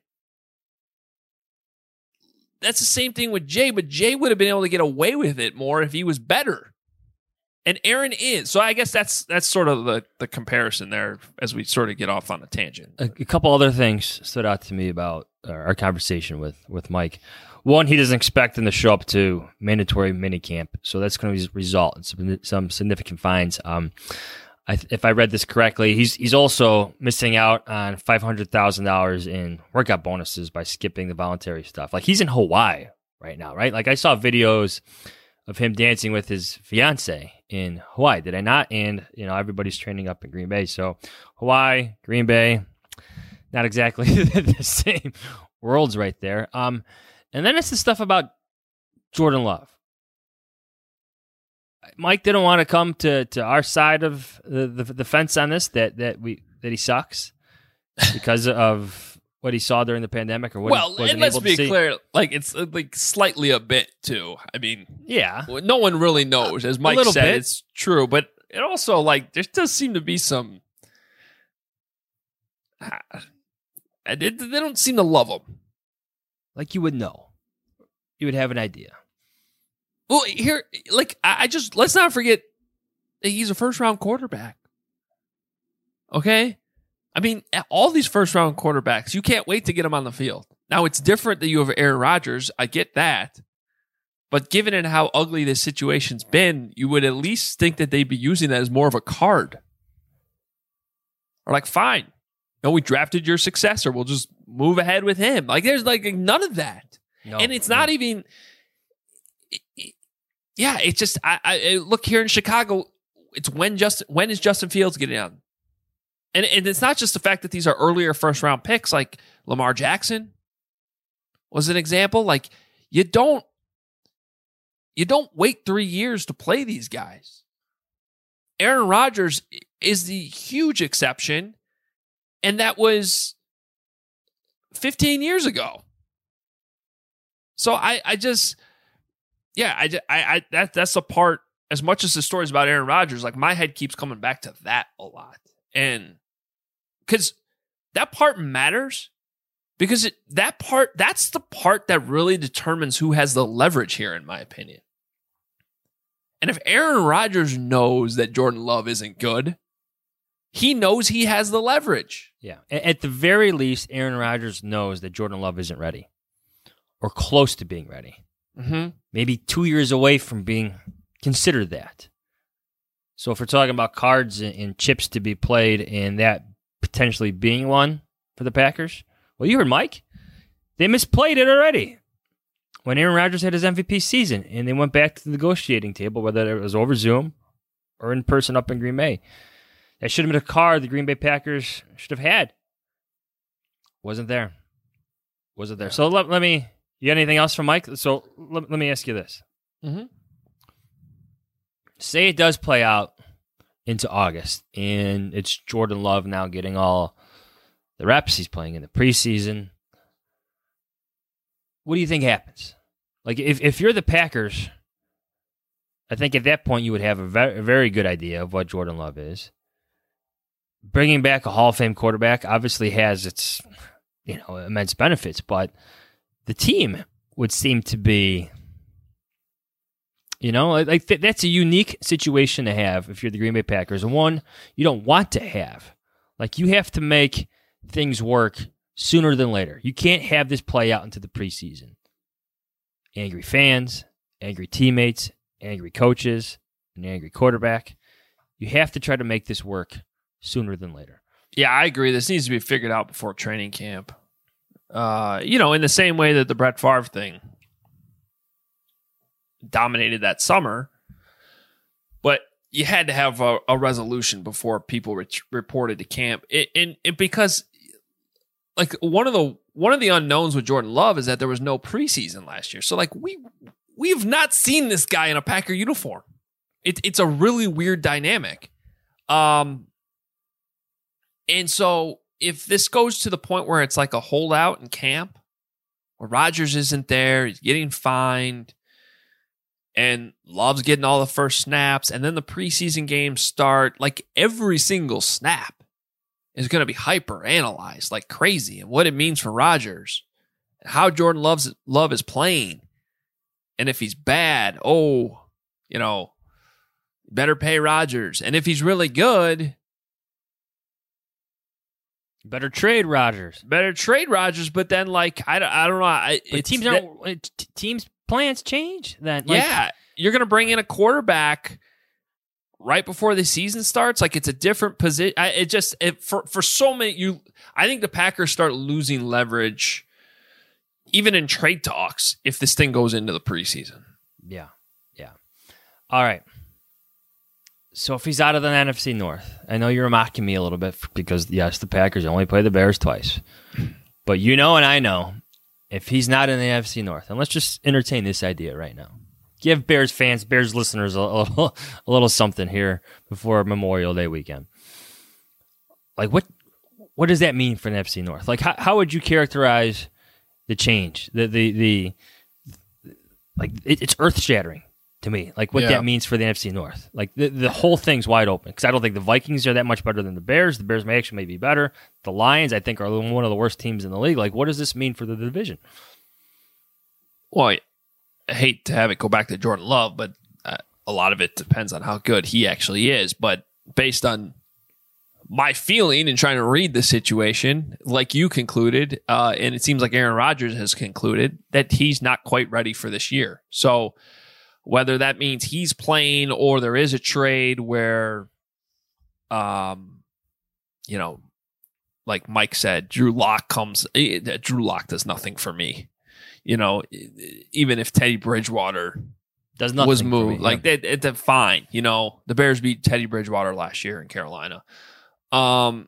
that's the same thing with Jay, but Jay would have been able to get away with it more if he was better. And Aaron is. So I guess that's that's sort of the, the comparison there as we sort of get off on a tangent. A, a couple other things stood out to me about our conversation with, with Mike. One, he doesn't expect them to show up to mandatory minicamp, so that's going to result in some, some significant fines. Um, I, if I read this correctly, he's he's also missing out on five hundred thousand dollars in workout bonuses by skipping the voluntary stuff. Like he's in Hawaii right now, right? Like I saw videos of him dancing with his fiance in Hawaii, did I not? And, you know, everybody's training up in Green Bay. So Hawaii, Green Bay, not exactly the same worlds right there. Um, and then it's the stuff about Jordan Love. Mike didn't want to come to, to our side of the, the, the fence on this, that, that we that he sucks because of what he saw during the pandemic or what well, he wasn't and let's able be to see. clear, like it's uh, like slightly a bit too. I mean, Yeah. no one really knows. As Mike little said, bit. it's true, but it also like there does seem to be some. Uh, they, they don't seem to love him. Like you would know. You would have an idea. Well, here, like I, I just let's not forget that he's a first round quarterback. Okay. I mean, all these first-round quarterbacks, you can't wait to get them on the field. Now, it's different that you have Aaron Rodgers. I get that. But given it how ugly this situation's been, you would at least think that they'd be using that as more of a card. Or like, fine. No, we drafted your successor. We'll just move ahead with him. Like, there's like none of that. No, and it's no. not even... It, it, yeah, it's just... I, I look here in Chicago, it's when Justin, when is Justin Fields getting on? And, and it's not just the fact that these are earlier first round picks, like Lamar Jackson was an example. Like you don't, you don't wait three years to play these guys. Aaron Rodgers is the huge exception, and that was fifteen years ago. So I, I just, yeah, I, I, I that that's the part. As much as the stories about Aaron Rodgers, like my head keeps coming back to that a lot, and. Because that part matters because it, that part, that's the part that really determines who has the leverage here, in my opinion. And if Aaron Rodgers knows that Jordan Love isn't good, he knows he has the leverage. Yeah. At the very least, Aaron Rodgers knows that Jordan Love isn't ready or close to being ready. Mm-hmm. Maybe two years away from being considered that. So if we're talking about cards and, and chips to be played and that potentially being one for the Packers, well, you heard Mike. They misplayed it already when Aaron Rodgers had his M V P season and they went back to the negotiating table, whether it was over Zoom or in person up in Green Bay. That should have been a card the Green Bay Packers should have had Wasn't there. Wasn't there. So let, let me, you got anything else from Mike? So let, let me ask you this. Mm-hmm. Say it does play out into August, and it's Jordan Love now getting all the reps. He's playing in the preseason. What do you think happens? Like, if, if you're the Packers, I think at that point you would have a very, a very good idea of what Jordan Love is. Bringing back a Hall of Fame quarterback obviously has its, you know, immense benefits, but the team would seem to be, you know, like th- that's a unique situation to have if you're the Green Bay Packers, and one you don't want to have. Like, you have to make things work sooner than later. You can't have this play out into the preseason. Angry fans, angry teammates, angry coaches, an angry quarterback. You have to try to make this work sooner than later. Yeah, I agree. This needs to be figured out before training camp. Uh, you know, in the same way that the Brett Favre thing dominated that summer, but you had to have a, a resolution before people re- reported to camp. It, and, and because, like, one of the one of the unknowns with Jordan Love is that there was no preseason last year. So, like, we we've not seen this guy in a Packer uniform. It, it's a really weird dynamic. Um, and so if this goes to the point where it's like a holdout in camp, where Rodgers isn't there, he's getting fined, and Love's getting all the first snaps, and then the preseason games start, like, every single snap is going to be hyper-analyzed like crazy, and what it means for Rodgers, and how Jordan Love's, Love is playing, and if he's bad, oh, you know, better pay Rodgers, and if he's really good, better trade Rodgers. Better trade Rodgers, but then, like, I don't, I don't know. I, but teams aren't, t- teams' plans change then. Like, yeah, you're going to bring in a quarterback right before the season starts. Like, it's a different position. It just, it, for, for so many, you, I think the Packers start losing leverage even in trade talks if this thing goes into the preseason. Yeah, yeah. All right. So if he's out of the N F C North, I know you're mocking me a little bit because, yes, the Packers only play the Bears twice. But you know and I know, if he's not in the N F C North, and let's just entertain this idea right now. Give Bears fans, Bears listeners a, a, little, a little something here before Memorial Day weekend. Like, what what does that mean for the N F C North? Like, how, how would you characterize the change? The, the, the like, it, it's earth-shattering to me, like what yeah. that means for the N F C North. Like the, the whole thing's wide open because I don't think the Vikings are that much better than the Bears. The Bears may actually may be better. The Lions, I think, are one of the worst teams in the league. Like, what does this mean for the division? Well, I, I hate to have it go back to Jordan Love, but uh, a lot of it depends on how good he actually is. But based on my feeling and trying to read the situation, like you concluded, uh, and it seems like Aaron Rodgers has concluded, that he's not quite ready for this year. So whether that means he's playing or there is a trade where, um, you know, like Mike said, Drew Lock comes. Drew Lock does nothing for me. You know, even if Teddy Bridgewater does nothing was moved, me, like yeah. they, it's fine. You know, the Bears beat Teddy Bridgewater last year in Carolina. Um,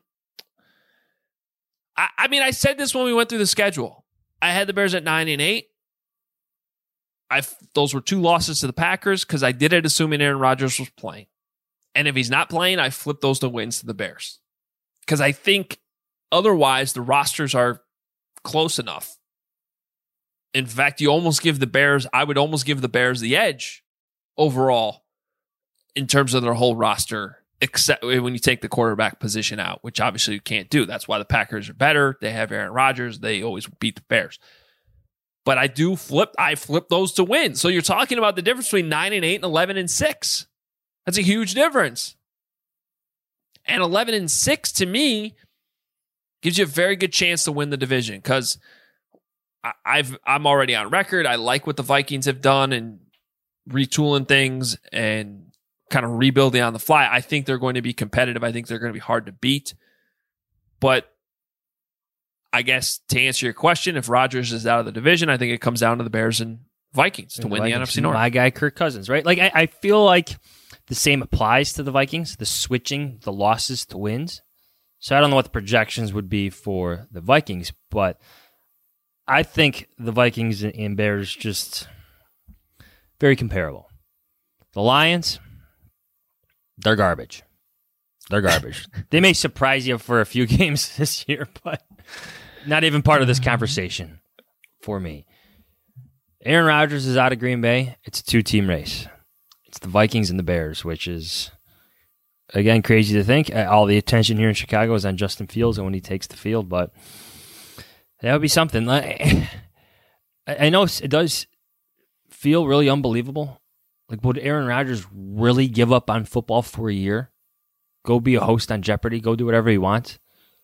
I, I mean, I said this when we went through the schedule. I had the Bears at nine and eight. I those were two losses to the Packers because I did it assuming Aaron Rodgers was playing. And if he's not playing, I flip those to wins to the Bears. Because I think otherwise the rosters are close enough. In fact, you almost give the Bears, I would almost give the Bears the edge overall in terms of their whole roster, except when you take the quarterback position out, which obviously you can't do. That's why the Packers are better. They have Aaron Rodgers. They always beat the Bears. But I do flip, I flip those to win. So you're talking about the difference between nine and eight and eleven and six. That's a huge difference. And eleven and six to me gives you a very good chance to win the division because I've I'm already on record. I like what the Vikings have done and retooling things and kind of rebuilding on the fly. I think they're going to be competitive. I think they're going to be hard to beat. But I guess to answer your question, if Rodgers is out of the division, I think it comes down to the Bears and Vikings to and win the, the N F C North. My guy, Kirk Cousins, right? Like I, I feel like the same applies to the Vikings, the switching the losses to wins. So I don't know what the projections would be for the Vikings, but I think the Vikings and Bears just very comparable. The Lions, they're garbage. They're garbage. They may surprise you for a few games this year, but not even part of this conversation for me. Aaron Rodgers is out of Green Bay. It's a two-team race. It's the Vikings and the Bears, which is, again, crazy to think. All the attention here in Chicago is on Justin Fields and when he takes the field, but that would be something. I know it does feel really unbelievable. Like, would Aaron Rodgers really give up on football for a year? Go be a host on Jeopardy? Go do whatever he wants?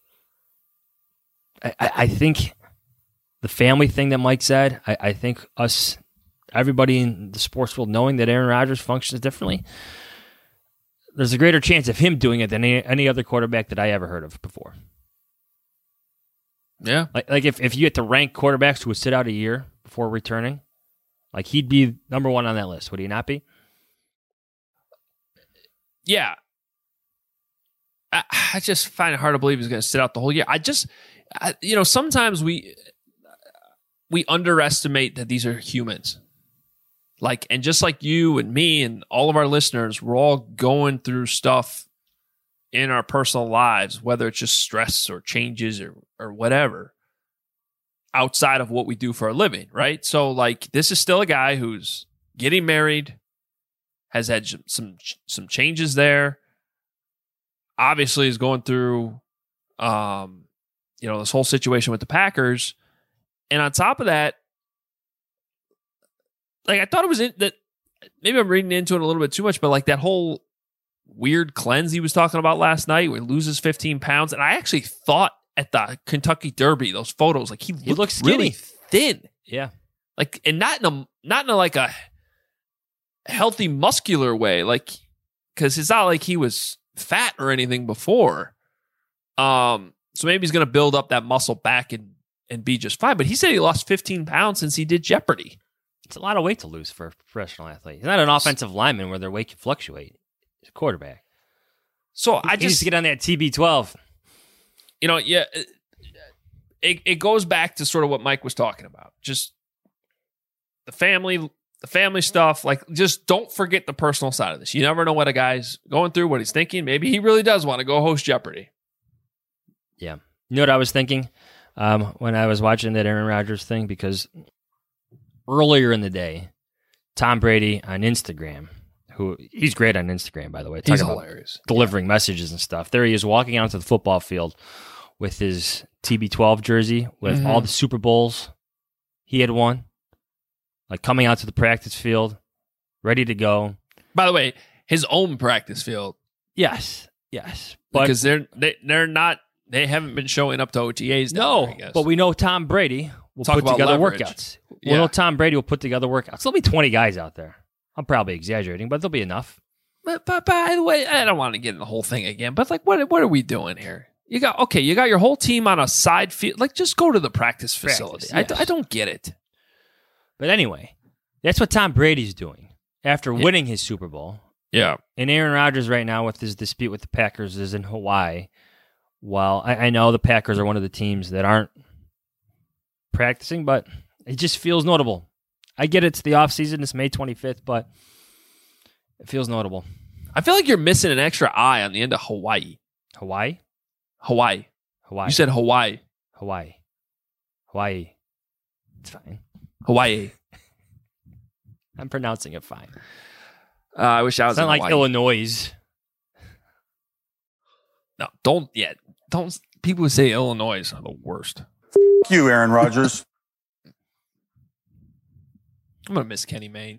I, I, I think the family thing that Mike said, I, I think us, everybody in the sports world knowing that Aaron Rodgers functions differently, there's a greater chance of him doing it than any, any other quarterback that I ever heard of before. Yeah. Like, like if, if you get to rank quarterbacks who would sit out a year before returning, like he'd be number one on that list, would he not be? Yeah. I, I just find it hard to believe he's going to sit out the whole year. I just, I, you know, sometimes we we underestimate that these are humans. Like, and just like you and me and all of our listeners, we're all going through stuff in our personal lives, whether it's just stress or changes or or whatever, outside of what we do for a living, right? So, like, this is still a guy who's getting married, has had some some changes there. Obviously, is going through, um, you know, this whole situation with the Packers, and on top of that, like I thought it was in, that maybe I'm reading into it a little bit too much, but like that whole weird cleanse he was talking about last night, where he loses fifteen pounds, and I actually thought at the Kentucky Derby, those photos, like he, He looked looks really skinny. thin, Yeah. like, and not in a not in a, like a healthy muscular way, like, because it's not like he was fat or anything before. Um, so maybe he's going to build up that muscle back and and be just fine. But he said he lost fifteen pounds since he did Jeopardy. It's a lot of weight to lose for a professional athlete. He's not an offensive lineman where their weight can fluctuate. He's a quarterback. So He I needs just to get on that T B twelve. you know, yeah, it it goes back to sort of what Mike was talking about. Just the family, the family stuff. Like, just don't forget the personal side of this. You never know what a guy's going through, what he's thinking. Maybe he really does want to go host Jeopardy. Yeah. You know what I was thinking um, when I was watching that Aaron Rodgers thing? Because earlier in the day, Tom Brady on Instagram, who he's great on Instagram, by the way. He's Talk about hilarious. delivering messages and stuff. There he is walking out to the football field with his T B twelve jersey with Mhm. all the Super Bowls he had won. Like coming out to the practice field, ready to go. By the way, his own practice field, Yes, yes. But because they're they, they're not they haven't been showing up to O T As. down no, there, I guess. but we know Tom Brady will Talk put about together leverage. workouts. We Yeah. know Tom Brady will put together workouts. There'll be twenty guys out there. I'm probably exaggerating, but there'll be enough. But, but by the way, I don't want to get in the whole thing again. But like, what what are we doing here? You got okay. You got your whole team on a side field. Like, just go to the practice facility. Practice, yes. I, I don't get it. But anyway, that's what Tom Brady's doing after winning his Super Bowl. Yeah. And Aaron Rodgers right now with his dispute with the Packers is in Hawaii. While I, I know the Packers are one of the teams that aren't practicing, but it just feels notable. I get it's the offseason, it's May twenty-fifth, but it feels notable. I feel like you're missing an extra I on the end of Hawaii. Hawaii? Hawaii. Hawaii. You said Hawaii. Hawaii. Hawaii. It's fine. Hawaii. I'm pronouncing it fine. Uh, I wish I was It's not in like Hawaii. Illinois. No, don't yet. Don't. People who say Illinois are the worst. F- you, Aaron Rodgers. I'm gonna miss Kenny Mayne.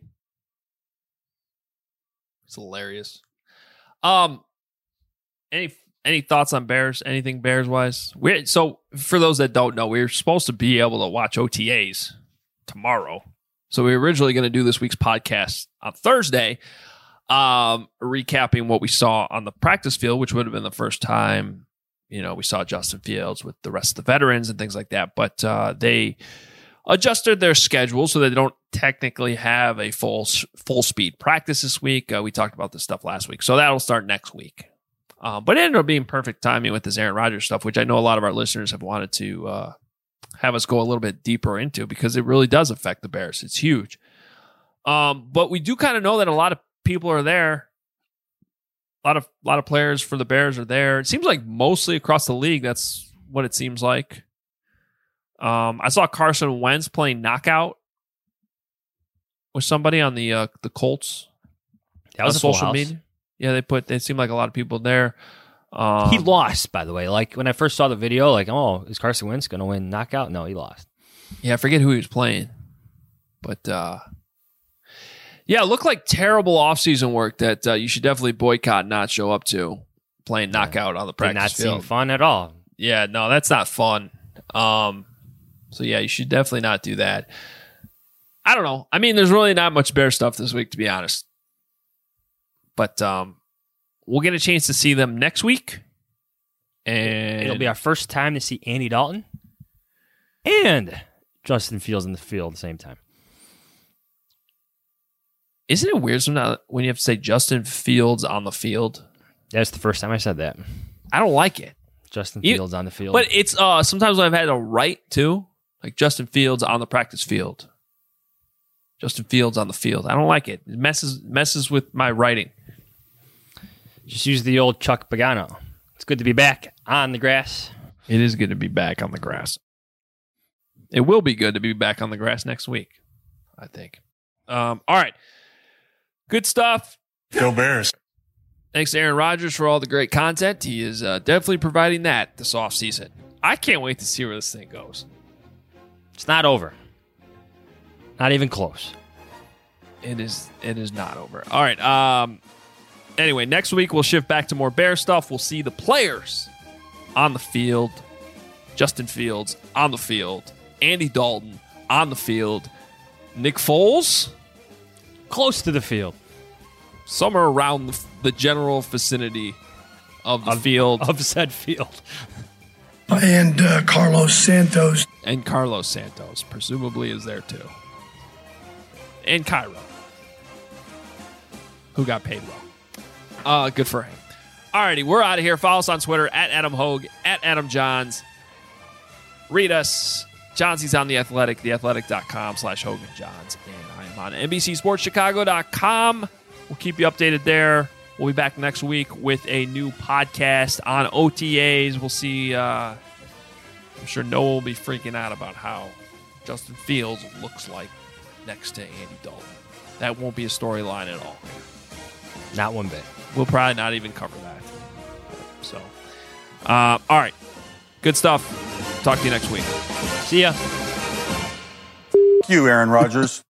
It's hilarious. Um, any any thoughts on Bears? Anything Bears wise? We so for those that don't know, we were supposed to be able to watch O T As tomorrow. So we were originally going to do this week's podcast on Thursday, um, recapping what we saw on the practice field, which would have been the first time, you know, we saw Justin Fields with the rest of the veterans and things like that. But uh, they adjusted their schedule so they don't technically have a full full speed practice this week. Uh, we talked about this stuff last week, so that'll start next week. Uh, but it ended up being perfect timing with this Aaron Rodgers stuff, which I know a lot of our listeners have wanted to uh, have us go a little bit deeper into because it really does affect the Bears. It's huge. Um, but we do kind of know that a lot of people are there. A lot of a lot of players for the Bears are there. It seems like mostly across the league, that's what it seems like. Um, I saw Carson Wentz playing knockout with somebody on the uh, the Colts. That was on a full social house. media. Yeah, they put. They seemed like a lot of people there. Um, He lost, by the way. Like when I first saw the video, like, oh, is Carson Wentz going to win knockout? No, he lost. Yeah, I forget who he was playing, but uh, yeah, it looked like terrible offseason work that uh, you should definitely boycott, and not show up to playing knockout on the Did practice not field. seem fun at all. Yeah, no, that's not fun. Um, so yeah, you should definitely not do that. I don't know. I mean, there's really not much Bear stuff this week, to be honest. But um, we'll get a chance to see them next week. And It'll be our first time to see Andy Dalton and Justin Fields in the field at the same time. Isn't it weird sometimes when you have to say Justin Fields on the field? That's the first time I said that. I don't like it. Justin You- Fields on the field. But it's uh sometimes when I've had to write too, like Justin Fields on the practice field. Justin Fields on the field. I don't like it. It messes messes with my writing. Just use the old Chuck Pagano. It's good to be back on the grass. It is good to be back on the grass. It will be good to be back on the grass next week, I think. Um, all right. Good stuff. Go Bears. Thanks to Aaron Rodgers for all the great content. He is uh, definitely providing that this offseason. I can't wait to see where this thing goes. It's not over. Not even close. It is it is not over. All right. Um, anyway, next week we'll shift back to more Bear stuff. We'll see the players on the field. Justin Fields on the field. Andy Dalton on the field. Nick Foles Close to the field. somewhere around the, the general vicinity of the Of- field. Of said field. And uh, Carlos Santos. And Carlos Santos presumably is there too. And Cairo, who got paid well. Uh, good for him. Alrighty, we're out of here. Follow us on Twitter at Adam Hogue, at Adam Johns. Read us. Johnsy's on The Athletic, theathletic.com slash Hogan Johns. And I am on N B C Sports Chicago dot com. We'll keep you updated there. We'll be back next week with a new podcast on O T As. We'll see. Uh, I'm sure Noah will be freaking out about how Justin Fields looks like next to Andy Dalton. That won't be a storyline at all. Not one bit. We'll probably not even cover that. So, uh, all right. Good stuff. Talk to you next week. See ya. You, Aaron Rodgers.